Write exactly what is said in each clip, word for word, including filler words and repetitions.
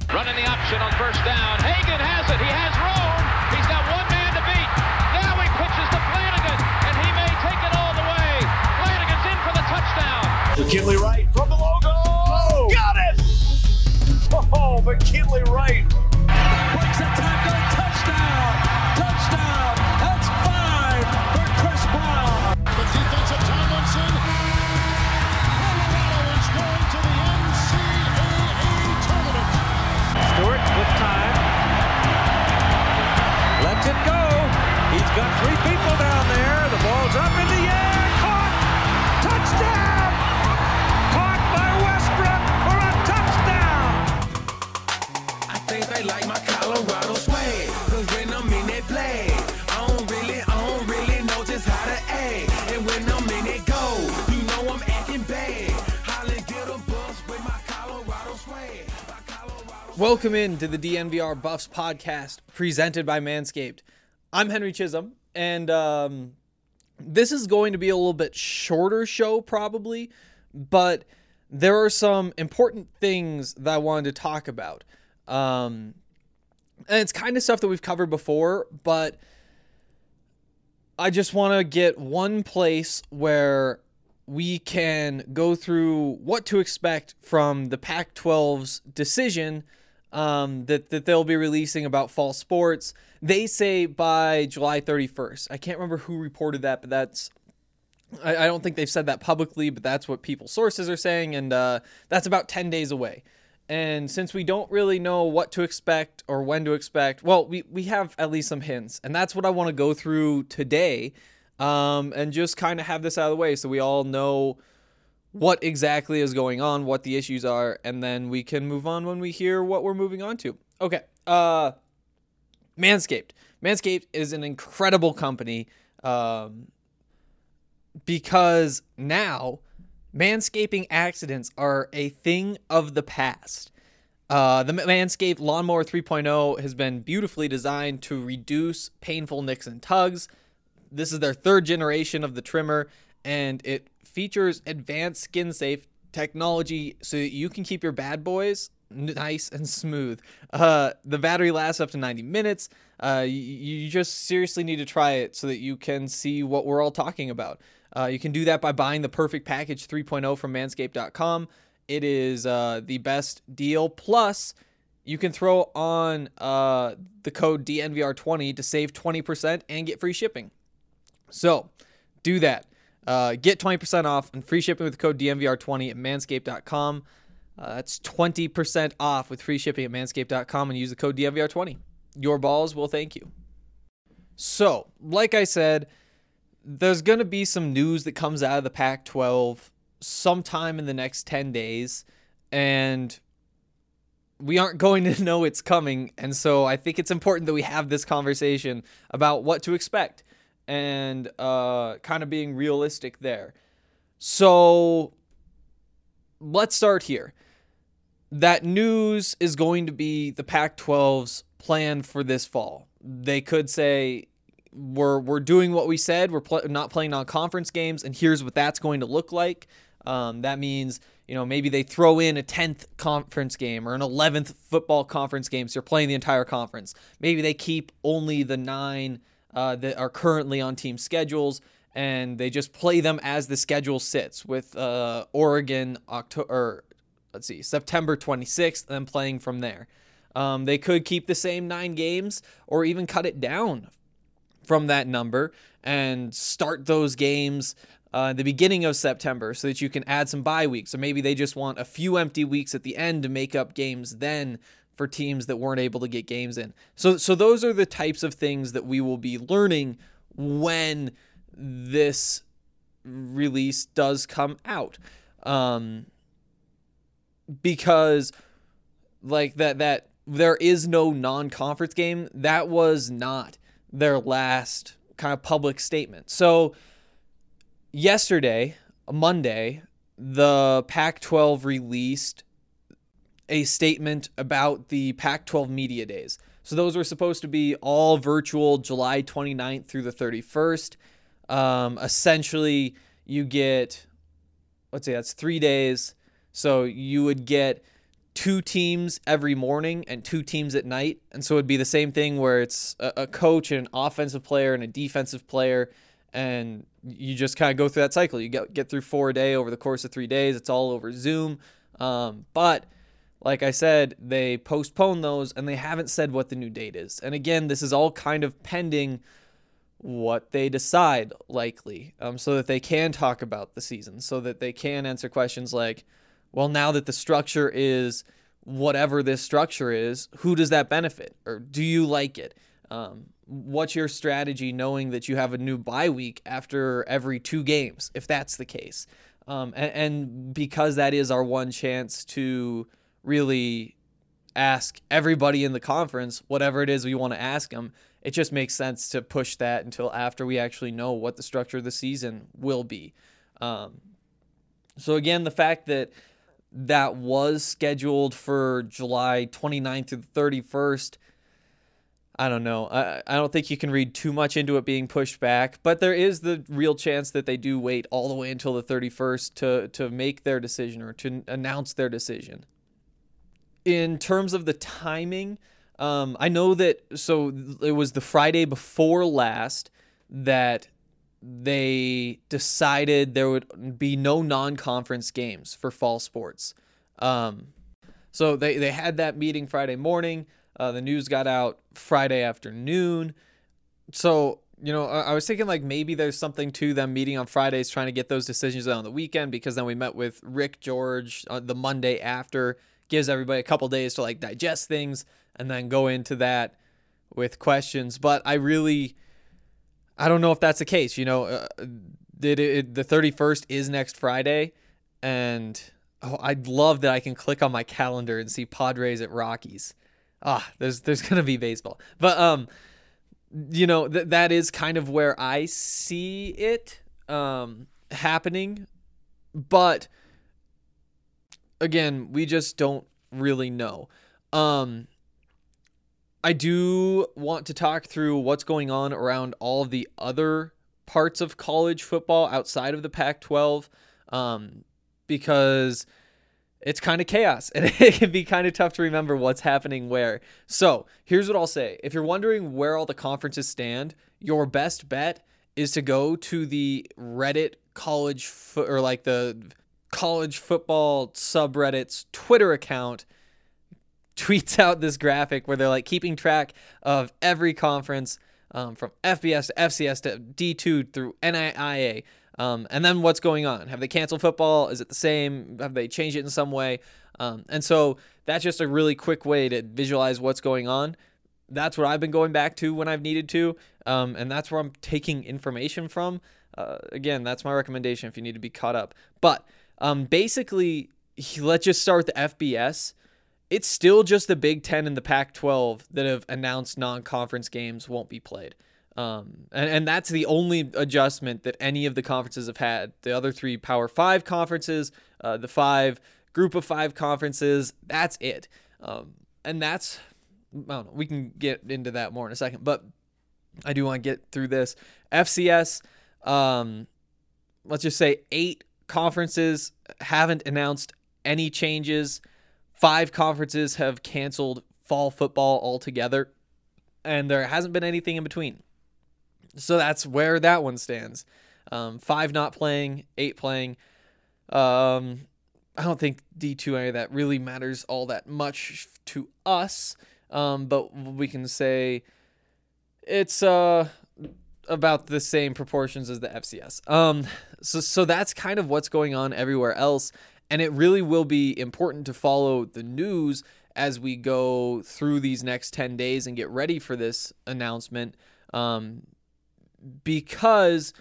Running the option on first down. Hagan has it. He has room. He's got one man to beat. Now he pitches to Flanagan, and he may take it all the way. Flanagan's in for the touchdown. McKinley Wright from the logo. Oh, got it! Oh, McKinley Wright. Breaks a tackle. Touchdown. Touchdown. That's five for Chris Brown. The defensive Tomlinson. Colorado is going to the N C double A tournament. Stewart with time. Lets it go. He's got three people down there. The ball's up in the air. Caught. Touchdown. Caught by Westbrook for a touchdown. I think they like my Colorado swag. Cause when I'm in that play, I don't really, I don't really know just how to act. And when I'm in it go, you know I'm acting bad. Holly get a bus with my Colorado swag. My Colorado Welcome in to the D N V R Buffs podcast presented by Manscaped. I'm Henry Chisholm, and um, this is going to be a little bit shorter show probably, but there are some important things that I wanted to talk about. Um, and it's kind of stuff that we've covered before, but I just want to get one place where we can go through what to expect from the Pac twelve's decision um, that, that they'll be releasing about fall sports. They say by July thirty-first. I can't remember who reported that, but that's, I, I don't think they've said that publicly, but that's what people's sources are saying, and uh, that's about ten days away. And since we don't really know what to expect or when to expect, well, we, we have at least some hints, and that's what I want to go through today, um, and just kind of have this out of the way so we all know what exactly is going on, what the issues are, and then we can move on when we hear what we're moving on to. Okay, uh, Manscaped. Manscaped is an incredible company um, because now manscaping accidents are a thing of the past. Uh, the Manscaped Lawnmower three point oh has been beautifully designed to reduce painful nicks and tugs. This is their third generation of the trimmer, and it features advanced skin-safe technology so that you can keep your bad boys nice and smooth. Uh, the battery lasts up to ninety minutes. Uh, you, you just seriously need to try it so that you can see what we're all talking about. Uh, you can do that by buying the Perfect Package three point oh from manscaped dot com. It is uh, the best deal. Plus, you can throw on uh, the code D N V R twenty to save twenty percent and get free shipping. So, do that. Uh, get twenty percent off and free shipping with the code D N V R twenty at manscaped dot com. Uh, that's twenty percent off with free shipping at manscaped dot com, and use the code D N V R twenty. Your balls will thank you. So, like I said, there's going to be some news that comes out of the Pac twelve sometime in the next ten days, and we aren't going to know it's coming, and so I think it's important that we have this conversation about what to expect and uh, kind of being realistic there. So, let's start here. That news is going to be the Pac twelve's plan for this fall. They could say, we're we're doing what we said, we're pl- not playing non-conference games, and here's what that's going to look like. Um, that means, you know, maybe they throw in a tenth conference game or an eleventh football conference game, so you're playing the entire conference. Maybe they keep only the nine uh, that are currently on team schedules, and they just play them as the schedule sits, with uh, Oregon October, or let's see, September twenty-sixth, and then playing from there. Um, they could keep the same nine games or even cut it down from that number and start those games uh, at the beginning of September so that you can add some bye weeks. Or maybe they just want a few empty weeks at the end to make up games then for teams that weren't able to get games in. So, so those are the types of things that we will be learning when this release does come out. Um, because like that, that there is no non-conference game. That was not their last kind of public statement. So yesterday, Monday, the Pac twelve released a statement about the Pac twelve Media Days. So those were supposed to be all virtual, July twenty-ninth through the thirty-first. Um, essentially, you get, let's say that's three days. So you would get two teams every morning and two teams at night. And so it'd be the same thing where it's a, a coach and an offensive player and a defensive player. And you just kind of go through that cycle. You get, get through four a day over the course of three days. It's all over Zoom. Um, but like I said, they postponed those and they haven't said what the new date is. And again, this is all kind of pending what they decide, likely, um, so that they can talk about the season, so that they can answer questions like, well, now that the structure is whatever this structure is, who does that benefit? Or do you like it? Um, what's your strategy knowing that you have a new bye week after every two games, if that's the case? Um, and, and because that is our one chance to really ask everybody in the conference whatever it is we want to ask them, it just makes sense to push that until after we actually know what the structure of the season will be. Um, so again, the fact that that was scheduled for July twenty-ninth through the thirty-first, I don't know. I, I don't think you can read too much into it being pushed back, but there is the real chance that they do wait all the way until the thirty-first to, to make their decision or to announce their decision. In terms of the timing, Um, I know that, so it was the Friday before last that they decided there would be no non-conference games for fall sports. Um, so they, they had that meeting Friday morning. Uh, the news got out Friday afternoon. So, you know, I, I was thinking like maybe there's something to them meeting on Fridays trying to get those decisions out on the weekend, because then we met with Rick George on the Monday after, gives everybody a couple days to like digest things and then go into that with questions. But I really, I don't know if that's the case. You know, uh, did it, the thirty-first is next Friday, and oh, I'd love that I can click on my calendar and see Padres at Rockies. Ah, there's there's gonna be baseball, but um, you know th- that is kind of where I see it um happening, but again, we just don't really know. Um, I do want to talk through what's going on around all of the other parts of college football outside of the Pac twelve, um, because it's kind of chaos and it can be kind of tough to remember what's happening where. So here's what I'll say. If you're wondering where all the conferences stand, your best bet is to go to the Reddit college fo- or like the college football subreddit's Twitter account tweets out this graphic where they're like keeping track of every conference, um, from F B S to F C S to D two through N I I A. Um, and then what's going on? Have they canceled football? Is it the same? Have they changed it in some way? Um, and so that's just a really quick way to visualize what's going on. That's what I've been going back to when I've needed to. Um, and that's where I'm taking information from. Uh, again, that's my recommendation if you need to be caught up. But um, basically, let's just start with the F B S. It's still just the Big Ten and the Pac twelve that have announced non-conference games won't be played. Um, and, and that's the only adjustment that any of the conferences have had. The other three Power Five conferences, uh, the five Group of Five conferences, that's it. Um, and that's, I don't know, we can get into that more in a second, but I do want to get through this. F C S, um, let's just say eight conferences haven't announced any changes. Five conferences have canceled fall football altogether, and there hasn't been anything in between. So that's where that one stands. Um, five not playing, eight playing. Um, I don't think D two any of that really matters all that much to us, um, but we can say it's uh, about the same proportions as the F C S. Um, so so that's kind of what's going on everywhere else, and it really will be important to follow the news as we go through these next ten days and get ready for this announcement. Um, because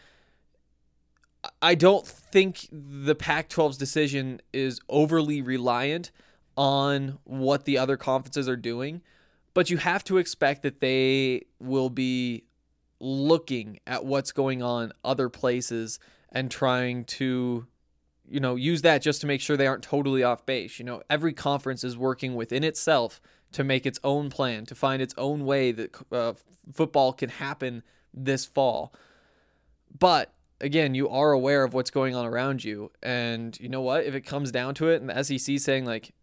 I don't think the Pac twelve's decision is overly reliant on what the other conferences are doing, but you have to expect that they will be looking at what's going on other places and trying to, you know, use that just to make sure they aren't totally off base. You know, every conference is working within itself to make its own plan, to find its own way that uh, football can happen this fall. But again, you are aware of what's going on around you, and you know what, if it comes down to it and the S E C saying like,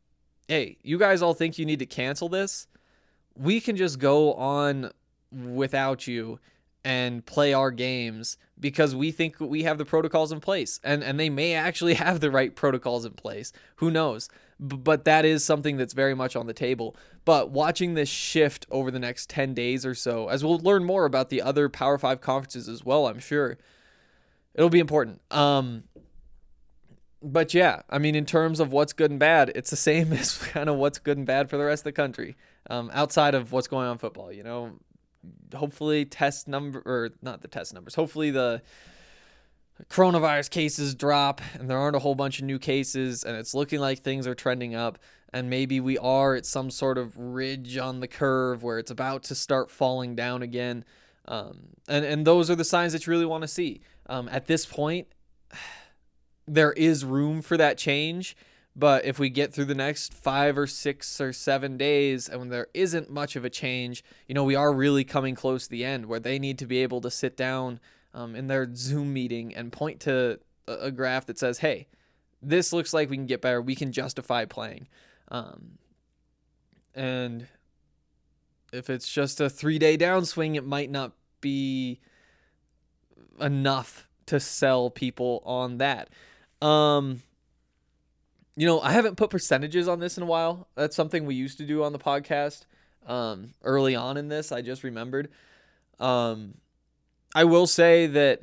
hey, you guys all think you need to cancel this? We can just go on without you and play our games because we think we have the protocols in place. And and they may actually have the right protocols in place. Who knows? B- but that is something that's very much on the table. But watching this shift over the next ten days or so, as we'll learn more about the other Power five conferences as well, I'm sure, it'll be important. Um, but yeah, I mean, in terms of what's good and bad, it's the same as kind of what's good and bad for the rest of the country, um, outside of what's going on in football, you know. Hopefully test number, or not the test numbers, hopefully the coronavirus cases drop and there aren't a whole bunch of new cases and it's looking like things are trending up, and maybe we are at some sort of ridge on the curve where it's about to start falling down again. Um, and, and those are the signs that you really want to see. Um, at this point, there is room for that change. But if we get through the next five or six or seven days and when there isn't much of a change, you know, we are really coming close to the end where they need to be able to sit down um, in their Zoom meeting and point to a, a graph that says, hey, this looks like we can get better. We can justify playing. Um, and if it's just a three-day downswing, it might not be enough to sell people on that. Um... You know, I haven't put percentages on this in a while. That's something we used to do on the podcast um, early on in this. I just remembered. Um, I will say that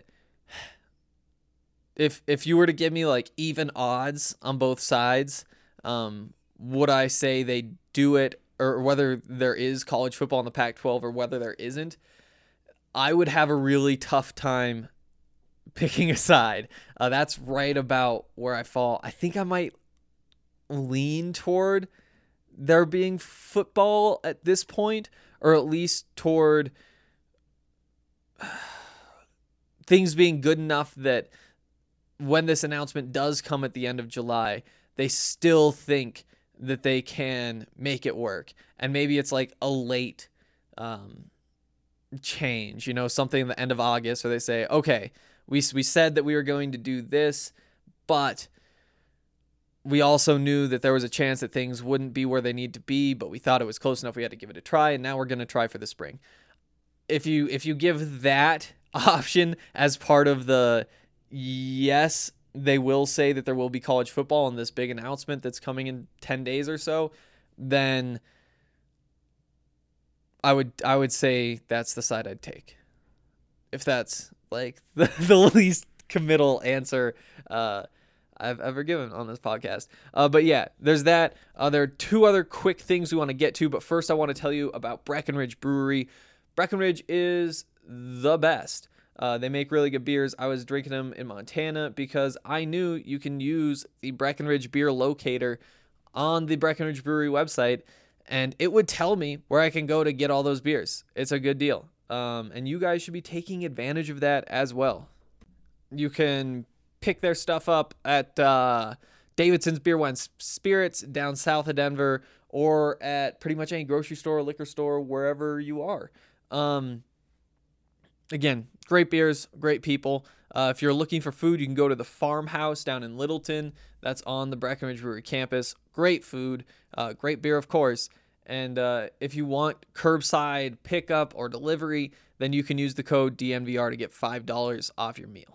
if if you were to give me like even odds on both sides, um, would I say they do it, or whether there is college football in the Pac twelve or whether there isn't, I would have a really tough time picking a side. Uh, that's right about where I fall. I think I might lean toward there being football at this point, or at least toward things being good enough that when this announcement does come at the end of July, they still think that they can make it work. And maybe it's like a late um, change, you know, something at the end of August where they say, okay, we we said that we were going to do this, but we also knew that there was a chance that things wouldn't be where they need to be, but we thought it was close enough we had to give it a try, and now we're going to try for the spring. If you if you give that option as part of the yes, they will say that there will be college football in this big announcement that's coming in ten days or so, then I would I would say that's the side I'd take. If that's like the, the least committal answer uh I've ever given on this podcast. Uh, but yeah, there's that. Uh, there are two other quick things we want to get to, but first I want to tell you about Breckenridge Brewery. Breckenridge is the best. Uh, they make really good beers. I was drinking them in Montana because I knew you can use the Breckenridge beer locator on the Breckenridge Brewery website, and it would tell me where I can go to get all those beers. It's a good deal. Um, and you guys should be taking advantage of that as well. You can pick their stuff up at uh, Davidson's Beer, Wine, Spirits down south of Denver, or at pretty much any grocery store, liquor store, wherever you are. Um, again, great beers, great people. Uh, if you're looking for food, you can go to the Farmhouse down in Littleton. That's on the Breckenridge Brewery campus. Great food, uh, great beer, of course. And uh, if you want curbside pickup or delivery, then you can use the code D N V R to get five dollars off your meal.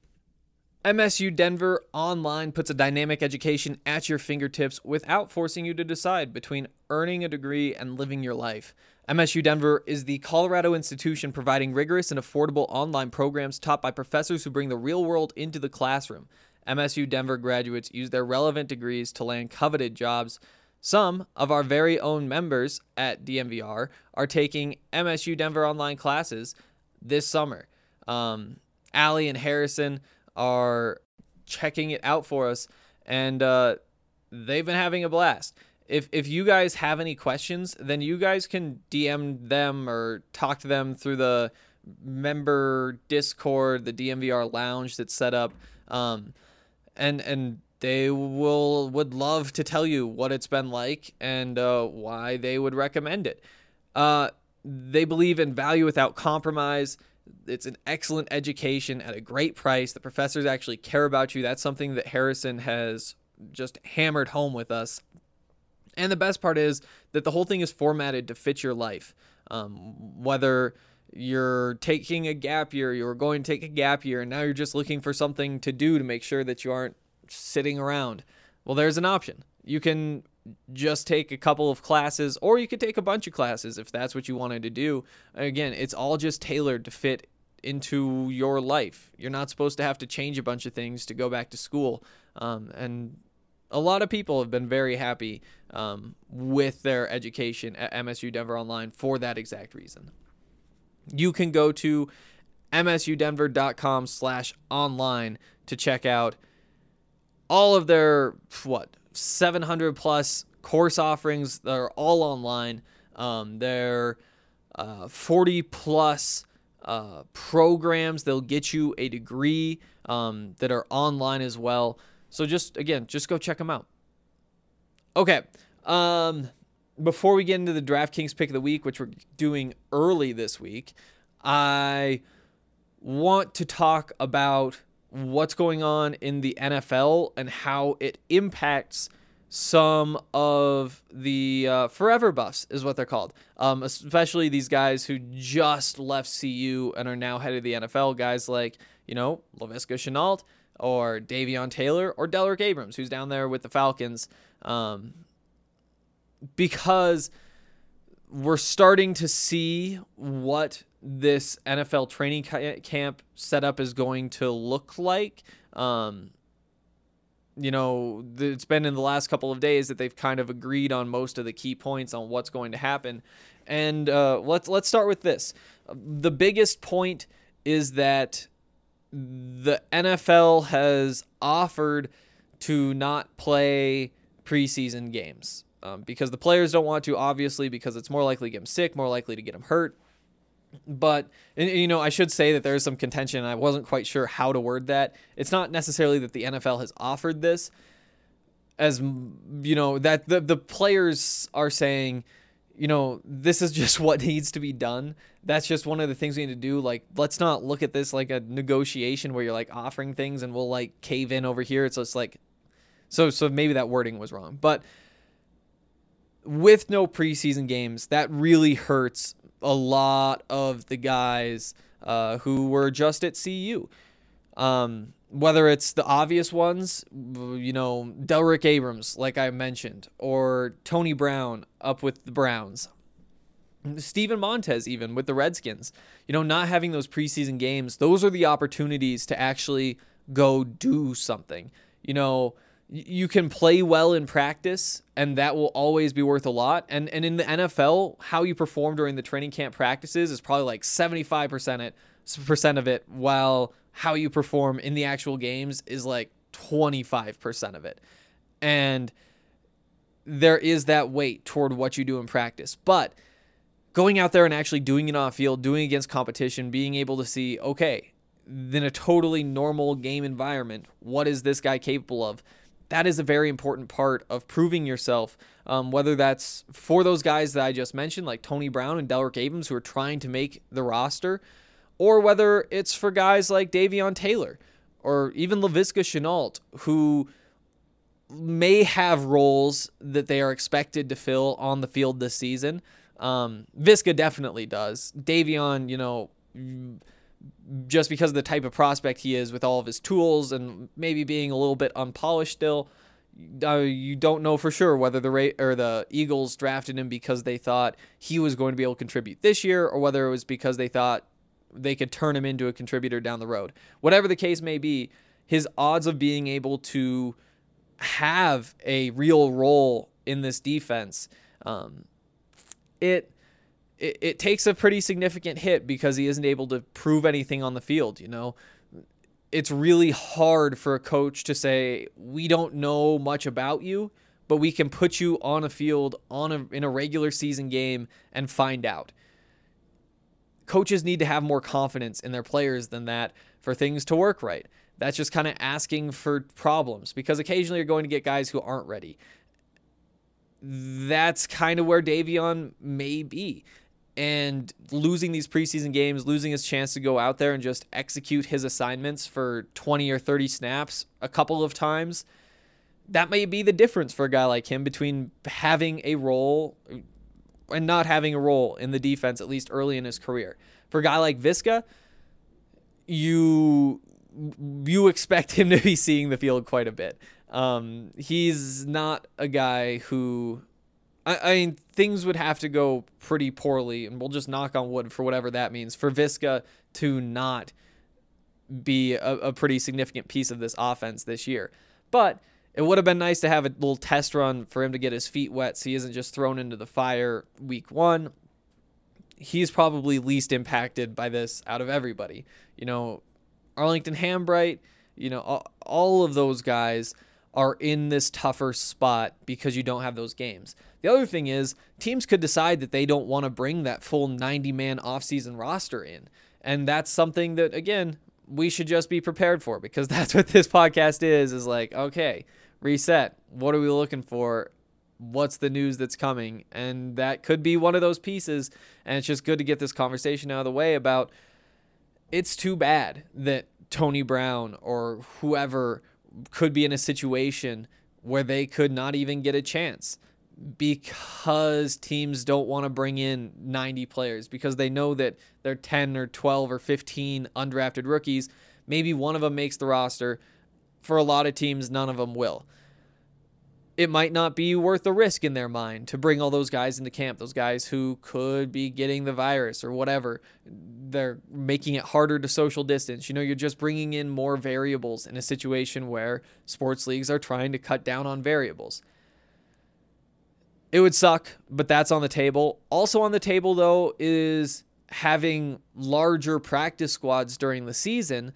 M S U Denver Online puts a dynamic education at your fingertips without forcing you to decide between earning a degree and living your life. M S U Denver is the Colorado institution providing rigorous and affordable online programs taught by professors who bring the real world into the classroom. M S U Denver graduates use their relevant degrees to land coveted jobs. Some of our very own members at D M V R are taking M S U Denver online classes this summer. Um, Allie and Harrison are checking it out for us, and uh, they've been having a blast. If if you guys have any questions, then you guys can D M them or talk to them through the member Discord, the D M V R lounge that's set up, um, and and they will would love to tell you what it's been like and uh, why they would recommend it. Uh, they believe in value without compromise. It's an excellent education at a great price. The professors actually care about you. That's something that Harrison has just hammered home with us. And the best part is that the whole thing is formatted to fit your life. Um, whether you're taking a gap year, you're going to take a gap year, and now you're just looking for something to do to make sure that you aren't sitting around. Well, there's an option. You can just take a couple of classes, or you could take a bunch of classes if that's what you wanted to do. Again, it's all just tailored to fit into your life. You're not supposed to have to change a bunch of things to go back to school. Um, and a lot of people have been very happy um, with their education at M S U Denver Online for that exact reason. You can go to msudenver.com slash online to check out all of their, what, seven hundred plus course offerings that are all online. Um, they're uh, forty plus uh, programs. They'll get you a degree um, that are online as well. So just, again, just go check them out. Okay. Um, before we get into the DraftKings pick of the week, which we're doing early this week, I want to talk about what's going on in the N F L and how it impacts some of the uh, forever buffs, is what they're called. Um, especially these guys who just left C U and are now headed to the N F L. Guys like, you know, Laviska Shenault or Davion Taylor or Delrick Abrams, who's down there with the Falcons. Um, because we're starting to see what this N F L training camp setup is going to look like. Um, you know, it's been in the last couple of days that they've kind of agreed on most of the key points on what's going to happen. And uh, let's let's start with this. The biggest point is that the N F L has offered to not play preseason games um, because the players don't want to, obviously, because it's more likely to get them sick, more likely to get them hurt. But, and, you know, I should say that there is some contention, and I wasn't quite sure how to word that. It's not necessarily that the N F L has offered this, as, you know, that the, the players are saying, you know, this is just what needs to be done. That's just one of the things we need to do. Like, let's not look at this like a negotiation where you're like offering things and we'll like cave in over here. It's just like, so, so maybe that wording was wrong. But with no preseason games, that really hurts a lot of the guys uh, who were just at C U. Um, whether it's the obvious ones, you know, Delrick Abrams, like I mentioned, or Tony Brown up with the Browns, Steven Montez even with the Redskins, you know, not having those preseason games, those are the opportunities to actually go do something. You know, you can play well in practice, and that will always be worth a lot. And and in the N F L, how you perform during the training camp practices is probably like seventy-five percent it, percent of it, while how you perform in the actual games is like twenty-five percent of it. And there is that weight toward what you do in practice. But going out there and actually doing it on field, doing against competition, being able to see, okay, in a totally normal game environment, what is this guy capable of? That is a very important part of proving yourself, um, whether that's for those guys that I just mentioned, like Tony Brown and Delrick Abrams, who are trying to make the roster, or whether it's for guys like Davion Taylor or even Laviska Shenault, who may have roles that they are expected to fill on the field this season. Um, Viska definitely does. Davion, you know, just because of the type of prospect he is with all of his tools and maybe being a little bit unpolished still, uh, you don't know for sure whether the Ra- or the Eagles drafted him because they thought he was going to be able to contribute this year, or whether it was because they thought they could turn him into a contributor down the road. Whatever the case may be, his odds of being able to have a real role in this defense, um, it... It, it takes a pretty significant hit because he isn't able to prove anything on the field. You know, it's really hard for a coach to say, we don't know much about you, but we can put you on a field on a, in a regular season game and find out. Coaches need to have more confidence in their players than that for things to work right. That's just kind of asking for problems, because occasionally you're going to get guys who aren't ready. That's kind of where Davion may be. And losing these preseason games, losing his chance to go out there and just execute his assignments for twenty or thirty snaps a couple of times, that may be the difference for a guy like him between having a role and not having a role in the defense, at least early in his career. For a guy like Viska, you you expect him to be seeing the field quite a bit. Um, he's not a guy who, I, I mean, things would have to go pretty poorly, and we'll just knock on wood for whatever that means, for Viska to not be a, a pretty significant piece of this offense this year. But it would have been nice to have a little test run for him to get his feet wet so he isn't just thrown into the fire week one. He's probably least impacted by this out of everybody. You know, Arlington Hambright, you know, all, all of those guys are in this tougher spot because you don't have those games. The other thing is, teams could decide that they don't want to bring that full ninety-man offseason roster in. And that's something that, again, we should just be prepared for, because that's what this podcast is, is like, okay, reset. What are we looking for? What's the news that's coming? And that could be one of those pieces. And it's just good to get this conversation out of the way about, it's too bad that Tony Brown or whoever could be in a situation where they could not even get a chance because teams don't want to bring in ninety players, because they know that they're ten or twelve or fifteen undrafted rookies. Maybe one of them makes the roster. For a lot of teams, none of them will. It might not be worth the risk in their mind to bring all those guys into camp, those guys who could be getting the virus or whatever. They're making it harder to social distance. You know, you're just bringing in more variables in a situation where sports leagues are trying to cut down on variables. It would suck, but that's on the table. Also on the table, though, is having larger practice squads during the season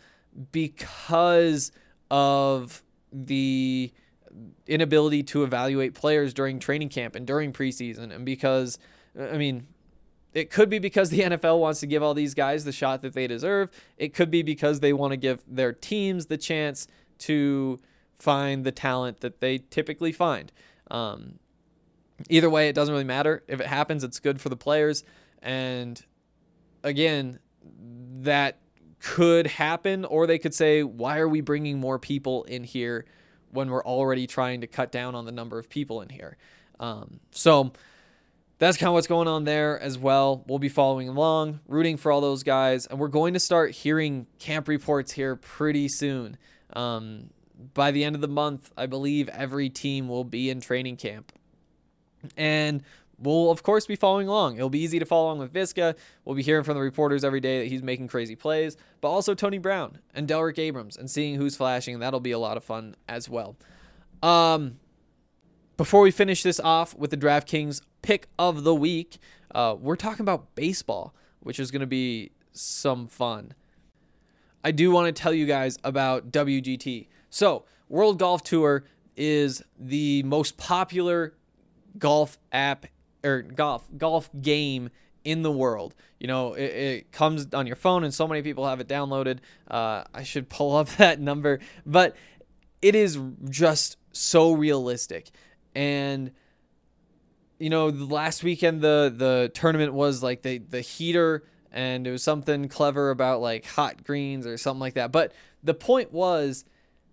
because of the inability to evaluate players during training camp and during preseason. And because, I mean, it could be because the N F L wants to give all these guys the shot that they deserve. It could be because they want to give their teams the chance to find the talent that they typically find. Um, either way, it doesn't really matter. If it happens, it's good for the players. And again, that could happen, or they could say, why are we bringing more people in here when we're already trying to cut down on the number of people in here? Um, so that's kind of what's going on there as well. We'll be following along, rooting for all those guys, and we're going to start hearing camp reports here pretty soon. Um, by the end of the month, I believe every team will be in training camp. And we'll, of course, be following along. It'll be easy to follow along with Viska. We'll be hearing from the reporters every day that he's making crazy plays, but also Tony Brown and Delrick Abrams and seeing who's flashing. That'll be a lot of fun as well. Um, before we finish this off with the DraftKings pick of the week, uh, we're talking about baseball, which is going to be some fun. I do want to tell you guys about W G T. So, World Golf Tour is the most popular golf app or golf golf game in the world. You know, it, it comes on your phone and so many people have it downloaded. Uh, I should pull up that number, but it is just so realistic. And, you know, the last weekend, the, the tournament was like the, the heater, and it was something clever about like hot greens or something like that. But the point was,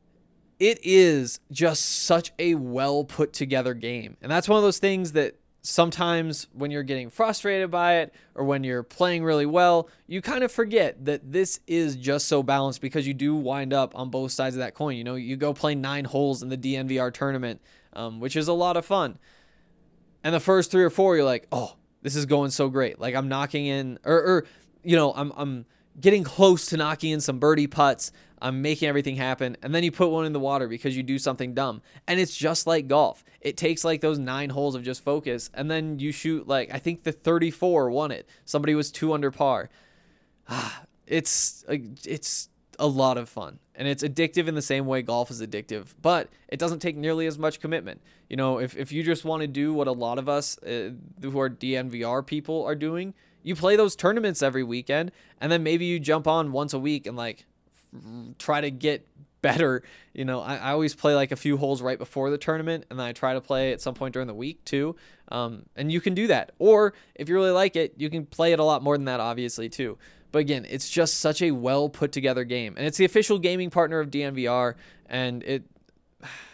it is just such a well put together game. And that's one of those things that sometimes when you're getting frustrated by it or when you're playing really well, you kind of forget that this is just so balanced, because you do wind up on both sides of that coin. You know, you go play nine holes in the D N V R tournament, um, which is a lot of fun. And the first three or four, you're like, oh, this is going so great. Like I'm knocking in, or, or you know, I'm, I'm getting close to knocking in some birdie putts. I'm making everything happen. And then you put one in the water because you do something dumb. And it's just like golf. It takes like those nine holes of just focus. And then you shoot like, I think the thirty-four won it. Somebody was two under par. Ah, it's, it's a lot of fun. And it's addictive in the same way golf is addictive. But it doesn't take nearly as much commitment. You know, if, if you just want to do what a lot of us uh, who are D N V R people are doing, you play those tournaments every weekend. And then maybe you jump on once a week and like, try to get better. You know, I, I always play like a few holes right before the tournament, and then I try to play at some point during the week too. Um, and you can do that. Or if you really like it, you can play it a lot more than that, obviously, too. But again, it's just such a well put together game. And it's the official gaming partner of D N V R. And it,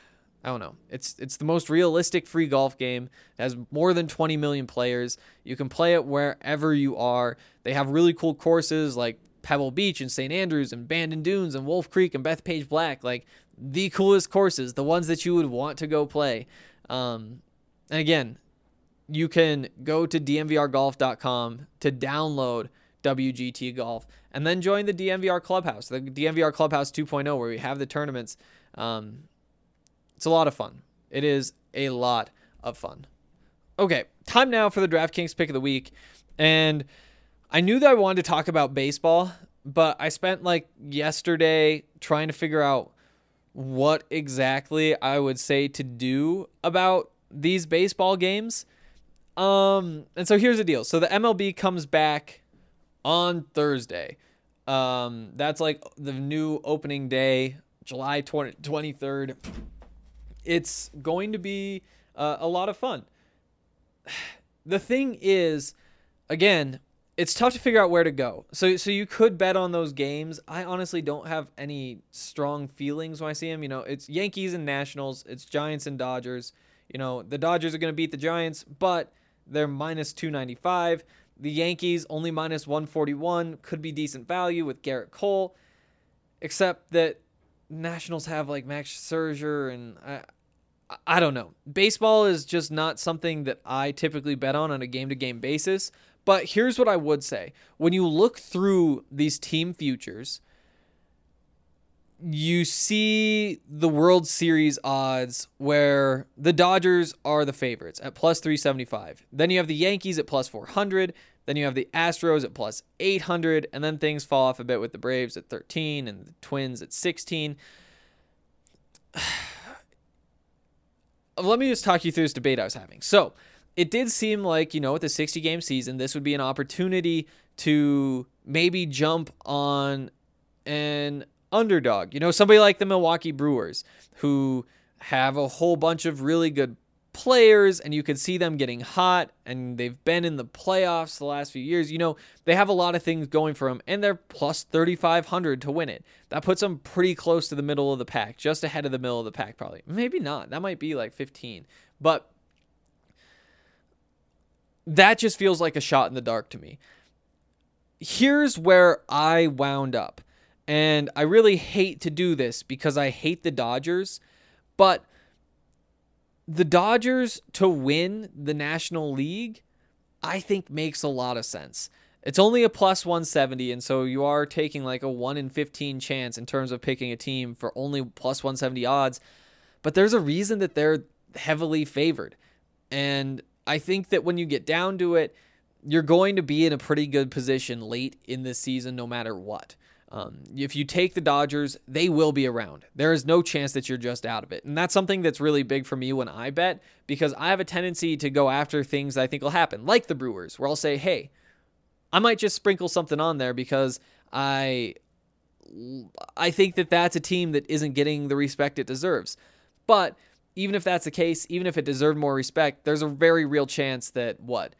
I don't know. It's it's the most realistic free golf game. It has more than twenty million players. You can play it wherever you are. They have really cool courses like Pebble Beach and Saint Andrews and Bandon Dunes and Wolf Creek and Bethpage Black. Like the coolest courses, the ones that you would want to go play. Um, and again, you can go to D M V R golf dot com to download W G T Golf and then join the D M V R Clubhouse, the D M V R Clubhouse two point oh, where we have the tournaments. Um, It's a lot of fun. It is a lot of fun. Okay, time now for the DraftKings pick of the week. And I knew that I wanted to talk about baseball, but I spent like yesterday trying to figure out what exactly I would say to do about these baseball games. Um, and so here's the deal. So the M L B comes back on Thursday. Um, that's like the new opening day, July twenty-third. It's going to be uh, a lot of fun. The thing is, again, it's tough to figure out where to go. So so you could bet on those games. I honestly don't have any strong feelings when I see them. You know, it's Yankees and Nationals. It's Giants and Dodgers. You know, the Dodgers are going to beat the Giants, but they're minus two ninety-five. The Yankees only minus one forty-one. Could be decent value with Garrett Cole, except that Nationals have like Max Scherzer, and I, I don't know. Baseball is just not something that I typically bet on on a game-to-game basis. But here's what I would say. When you look through these team futures, you see the World Series odds where the Dodgers are the favorites at plus three seventy-five. Then you have the Yankees at plus four hundred. Then you have the Astros at plus eight hundred. And then things fall off a bit with the Braves at thirteen and the Twins at sixteen. Let me just talk you through this debate I was having. So it did seem like, you know, with the sixty-game season, this would be an opportunity to maybe jump on an underdog. You know, somebody like the Milwaukee Brewers, who have a whole bunch of really good players, and you could see them getting hot, and they've been in the playoffs the last few years. You know, they have a lot of things going for them, and they're plus thirty-five hundred to win it. That puts them pretty close to the middle of the pack, just ahead of the middle of the pack, probably. Maybe not. That might be like fifteen. But that just feels like a shot in the dark to me. Here's where I wound up. And I really hate to do this because I hate the Dodgers, but the Dodgers to win the National League, I think makes a lot of sense. It's only a plus one seventy, and so you are taking like a one in fifteen chance in terms of picking a team for only plus one seventy odds, but there's a reason that they're heavily favored. And I think that when you get down to it, you're going to be in a pretty good position late in the season no matter what. Um, if you take the Dodgers, they will be around. There is no chance that you're just out of it. And that's something that's really big for me when I bet, because I have a tendency to go after things that I think will happen, like the Brewers, where I'll say, hey, I might just sprinkle something on there because I I think that that's a team that isn't getting the respect it deserves. But even if that's the case, even if it deserved more respect, there's a very real chance that, what,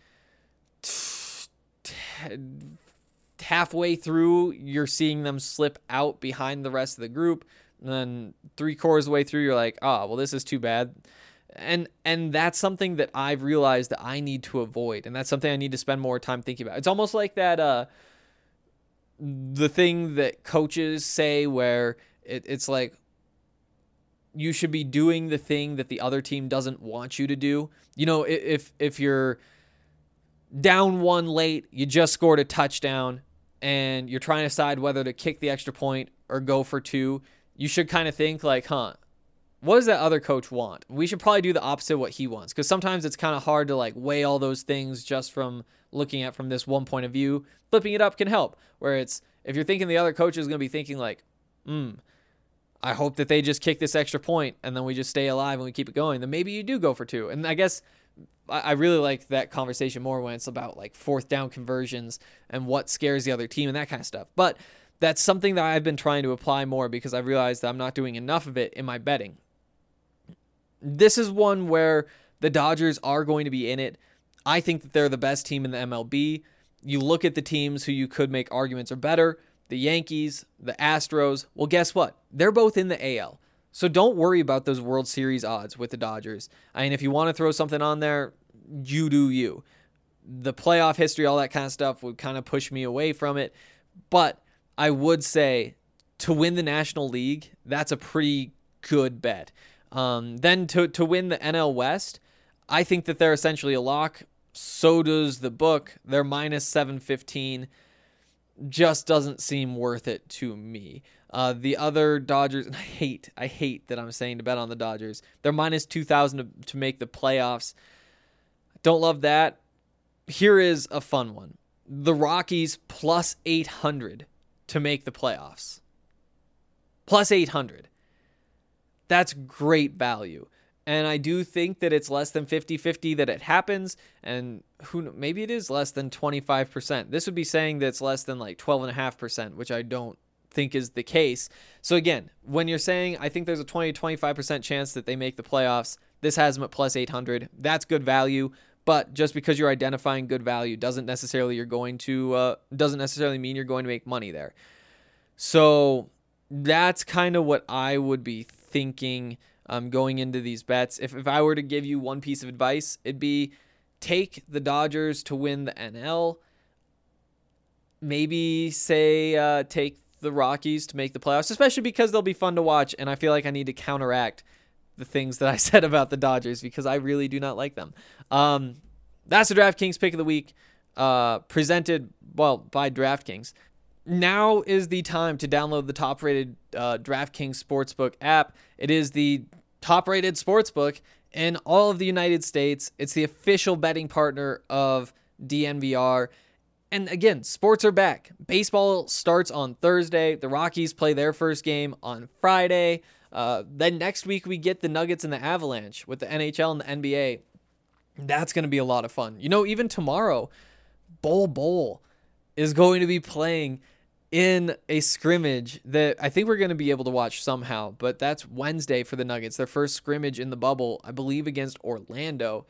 halfway through, you're seeing them slip out behind the rest of the group. And then three quarters of the way through, you're like, oh, well, this is too bad. And and that's something that I've realized that I need to avoid. And that's something I need to spend more time thinking about. It's almost like that, uh, the thing that coaches say where it, it's like, you should be doing the thing that the other team doesn't want you to do. You know, if if you're down one late, you just scored a touchdown, and you're trying to decide whether to kick the extra point or go for two, you should kind of think like, huh, what does that other coach want? We should probably do the opposite of what he wants, because sometimes it's kind of hard to like weigh all those things just from looking at from this one point of view. Flipping it up can help, where it's, if you're thinking the other coach is going to be thinking like, hmm, I hope that they just kick this extra point and then we just stay alive and we keep it going, then maybe you do go for two. And I guess I really like that conversation more when it's about like fourth down conversions and what scares the other team and that kind of stuff. But that's something that I've been trying to apply more because I've realized that I'm not doing enough of it in my betting. This is one where the Dodgers are going to be in it. I think that they're the best team in the M L B. You look at the teams who you could make arguments are better, the Yankees, the Astros. Well, guess what? They're both in the A L. So don't worry about those World Series odds with the Dodgers. I mean, if you want to throw something on there, you do you. The playoff history, all that kind of stuff would kind of push me away from it. But I would say to win the National League, that's a pretty good bet. Um, then to, to win the N L West, I think that they're essentially a lock. So does the book. They're minus seven fifteen. Just doesn't seem worth it to me. Uh, the other Dodgers, and I hate, I hate that I'm saying to bet on the Dodgers. They're minus two thousand to, to make the playoffs. Don't love that. Here is a fun one. The Rockies plus eight hundred to make the playoffs. Plus eight hundred. That's great value. And I do think that it's less than fifty-fifty that it happens. And who maybe it is less than twenty-five percent. This would be saying that it's less than like twelve point five percent, which I don't think is the case. So again, when you're saying I think there's a twenty to twenty-five percent chance that they make the playoffs, this has them at plus eight hundred. That's good value. But just because you're identifying good value doesn't necessarily you're going to uh, doesn't necessarily mean you're going to make money there. So that's kind of what I would be thinking um, going into these bets. If if I were to give you one piece of advice, it'd be take the Dodgers to win the N L. Maybe say uh, take the Rockies to make the playoffs, especially because they'll be fun to watch. And I feel like I need to counteract the things that I said about the Dodgers because I really do not like them. Um, that's the DraftKings pick of the week, uh, presented, well, by DraftKings. Now is the time to download the top-rated uh, DraftKings Sportsbook app. It is the top-rated sportsbook in all of the United States. It's the official betting partner of D N V R. And again, sports are back. Baseball starts on Thursday. The Rockies play their first game on Friday. Uh, then next week we get the Nuggets and the Avalanche with the N H L and the N B A. That's going to be a lot of fun. You know, even tomorrow, Bol Bol is going to be playing in a scrimmage that I think we're going to be able to watch somehow, but that's Wednesday for the Nuggets. Their first scrimmage in the bubble, I believe, against Orlando.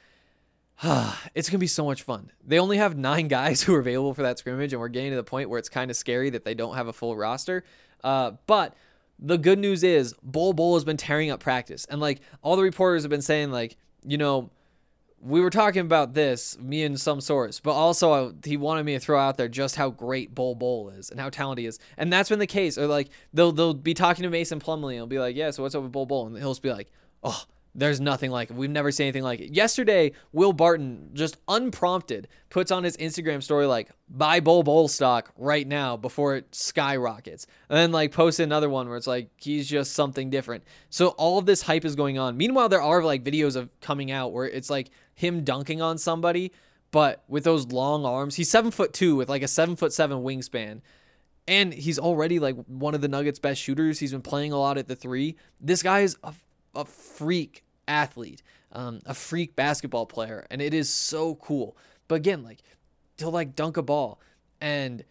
It's going to be so much fun. They only have nine guys who are available for that scrimmage, and we're getting to the point where it's kind of scary that they don't have a full roster. Uh, but the good news is Bol Bol has been tearing up practice. And like all the reporters have been saying, like, you know, we were talking about this, me and some source, but also I, he wanted me to throw out there just how great Bol Bol is and how talented he is. And that's been the case. Or like they'll they'll be talking to Mason Plumlee and he'll be like, yeah, so what's up with Bol Bol? And he'll just be like, oh, there's nothing like it. We've never seen anything like it. Yesterday, Will Barton, just unprompted, puts on his Instagram story like, buy Bol Bol stock right now before it skyrockets. And then like posted another one where it's like, he's just something different. So all of this hype is going on. Meanwhile, there are like videos of coming out where it's like him dunking on somebody, but with those long arms. He's seven foot two with like a seven foot seven wingspan. And he's already like one of the Nuggets' best shooters. He's been playing a lot at the three. This guy is a, a freak athlete, um, a freak basketball player, and it is so cool. But again, like he'll like dunk a ball and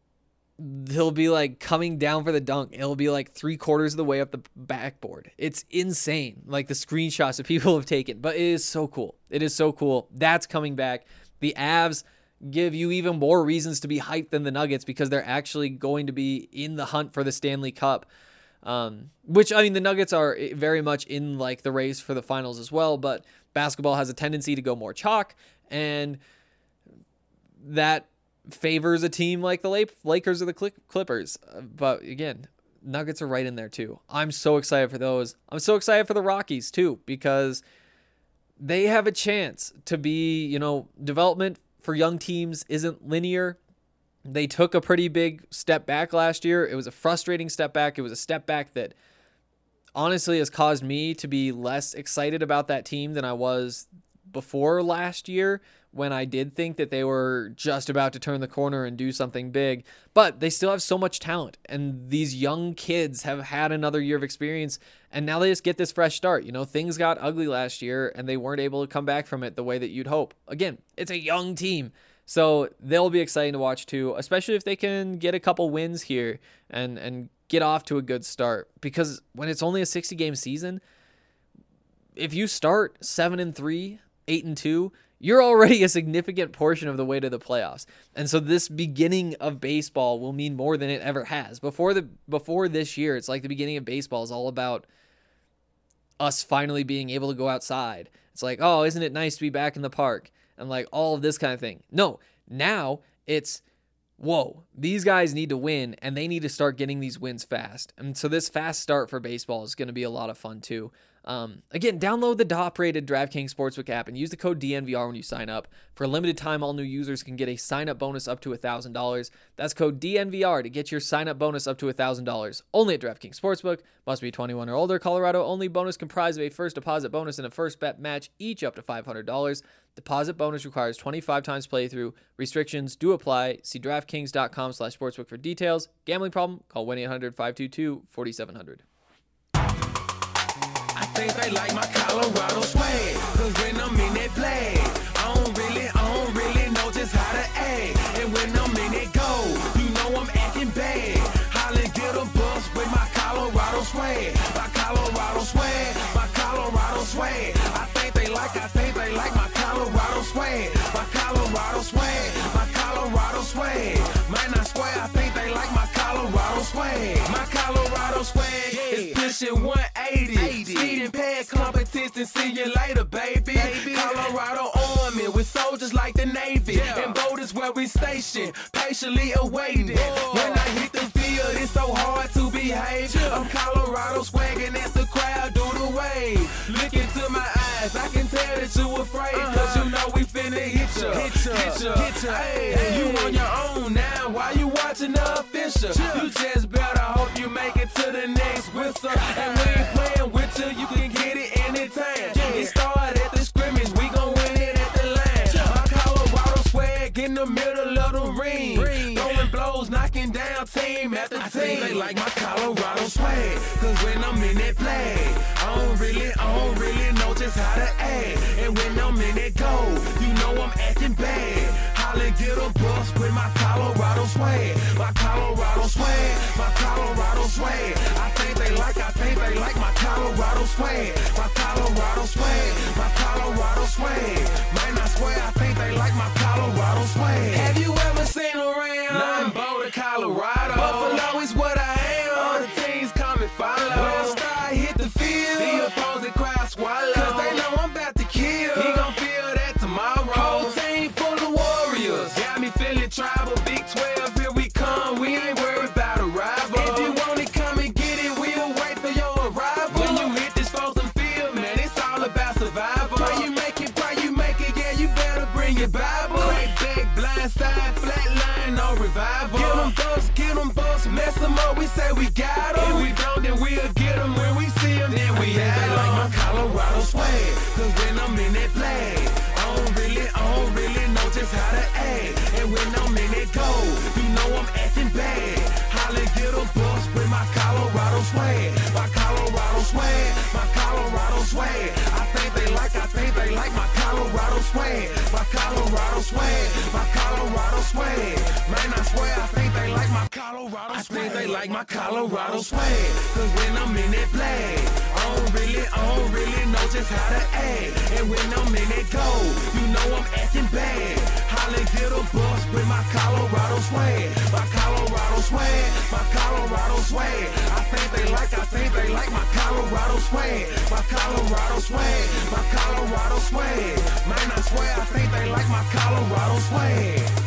he'll be like coming down for the dunk. It'll be like three quarters of the way up the backboard. It's insane. Like the screenshots that people have taken, but it is so cool. It is so cool. That's coming back. The Avs give you even more reasons to be hyped than the Nuggets because they're actually going to be in the hunt for the Stanley Cup. Um, which, I mean, the Nuggets are very much in like the race for the finals as well, but basketball has a tendency to go more chalk, and that favors a team like the Lakers or the Clippers. But again, Nuggets are right in there too. I'm so excited for those. I'm so excited for the Rockies too, because they have a chance to be, you know, development for young teams isn't linear. They took a pretty big step back last year. It was a frustrating step back. It was a step back that honestly has caused me to be less excited about that team than I was before last year, when I did think that they were just about to turn the corner and do something big. But they still have so much talent, and these young kids have had another year of experience, and now they just get this fresh start. You know, things got ugly last year, and they weren't able to come back from it the way that you'd hope. Again, it's a young team. So they'll be exciting to watch too, especially if they can get a couple wins here and, and get off to a good start. Because when it's only a sixty game season, if you start seven and three, eight and two, you're already a significant portion of the way to the playoffs. And so this beginning of baseball will mean more than it ever has. Before the before this year, it's like the beginning of baseball is all about us finally being able to go outside. It's like, oh, isn't it nice to be back in the park? And like all of this kind of thing. No, now it's, whoa, these guys need to win, and they need to start getting these wins fast. And so this fast start for baseball is going to be a lot of fun too. Um, again, download the top-rated DraftKings Sportsbook app and use the code D N V R when you sign up. For a limited time, all new users can get a sign-up bonus up to one thousand dollars. That's code D N V R to get your sign-up bonus up to one thousand dollars. Only at DraftKings Sportsbook. Must be twenty-one or older. Colorado only. Bonus comprised of a first deposit bonus and a first bet match, each up to five hundred dollars. Deposit bonus requires twenty-five times playthrough. Restrictions do apply. See DraftKings.com slash sportsbook for details. Gambling problem? Call one eight hundred five two two four seven zero zero. I think they like my Colorado swag, cause when I'm in that flag, I don't really, I don't really know just how to act. And when I'm in that go, you know I'm acting bad. Holla, get a bus with my Colorado swag, my Colorado swag, my Colorado swag. I think they like, I think they like my Colorado swag, my Colorado swag, my Colorado swag. Man, I swear, I think they like my Colorado swag, my Colorado swag is pushing one eighty. Speeding past competition, see you later, baby. baby. Colorado Army with soldiers like the Navy. Yeah. And voters where we stationed, patiently awaiting. Whoa. When I hit the field, it's so hard to behave. Yeah. I'm Colorado swagging as the crowd do the wave. Look into my eyes, I can tell that you afraid. Uh-huh. Cause you know we finna hit ya. Hit ya, hit ya, hit ya. Hey, hey. You on your own now, why you watching the official? Yeah. You just better hope you make it to the next whistle. And we ain't playing with you can get it anytime. Yeah. It started at the scrimmage, we gon' win it at the line. Yeah. My Colorado swag in the middle of the ring. ring. Throwing blows, knocking down team after I team. They like my Colorado swag, cause when I'm in that flag, I don't really, I don't really know just how to act. And when I'm in that goal, you know I'm acting bad. Holla, get a bus with my Colorado swag, my Colorado swag, my Colorado swag. I think they like, I think they like my Colorado swag, my Colorado swag, my Colorado swag. Man, I swear, I think they like my Colorado swag. Have you ever seen around? Nah, I'm Boulder, Colorado. Buffalo is what I am. All the teams come and follow. When I start hit the field, the opposing crowd swallow. Cause they know I'm about to kill. He gon' feel that tomorrow. Whole team full of warriors. Got me feeling tribal. Big twelve, here we come. We ain't worried about a rival. If you want it, come and get it. We'll wait for your arrival. When you hit this frozen field, man, it's all about survival. Pray you make it, pray you make it. Yeah, you better bring your Bible. Crack back, blind side, flat line, no revival. Get them bucks, get them bucks, mess them up. We say we got them. If we don't, then we'll get them. When we see them, then we have them. They like my Colorado swag, cause when I'm in that flag, I don't really, I don't really know just how to act. And when I'm in that goal, you know I'm acting bad. Holla, get a bus with my Colorado swag, my Colorado swag, my Colorado swag. I think they like, I think they like my Colorado swag, my Colorado swag, my Colorado swag. Man, I swear, I think they like my Colorado swag. I think they like my Colorado swag, cause when I'm in that flag, I don't really, I don't really know just how to act. And when I'm in that goal, you know I'm acting bad. Holla, get a bus with my Colorado swag, my Colorado swag, my Colorado swag. I think they like, I think they like my Colorado swag, my Colorado swag, my Colorado swag. Man, I swear, I think they like my Colorado swag.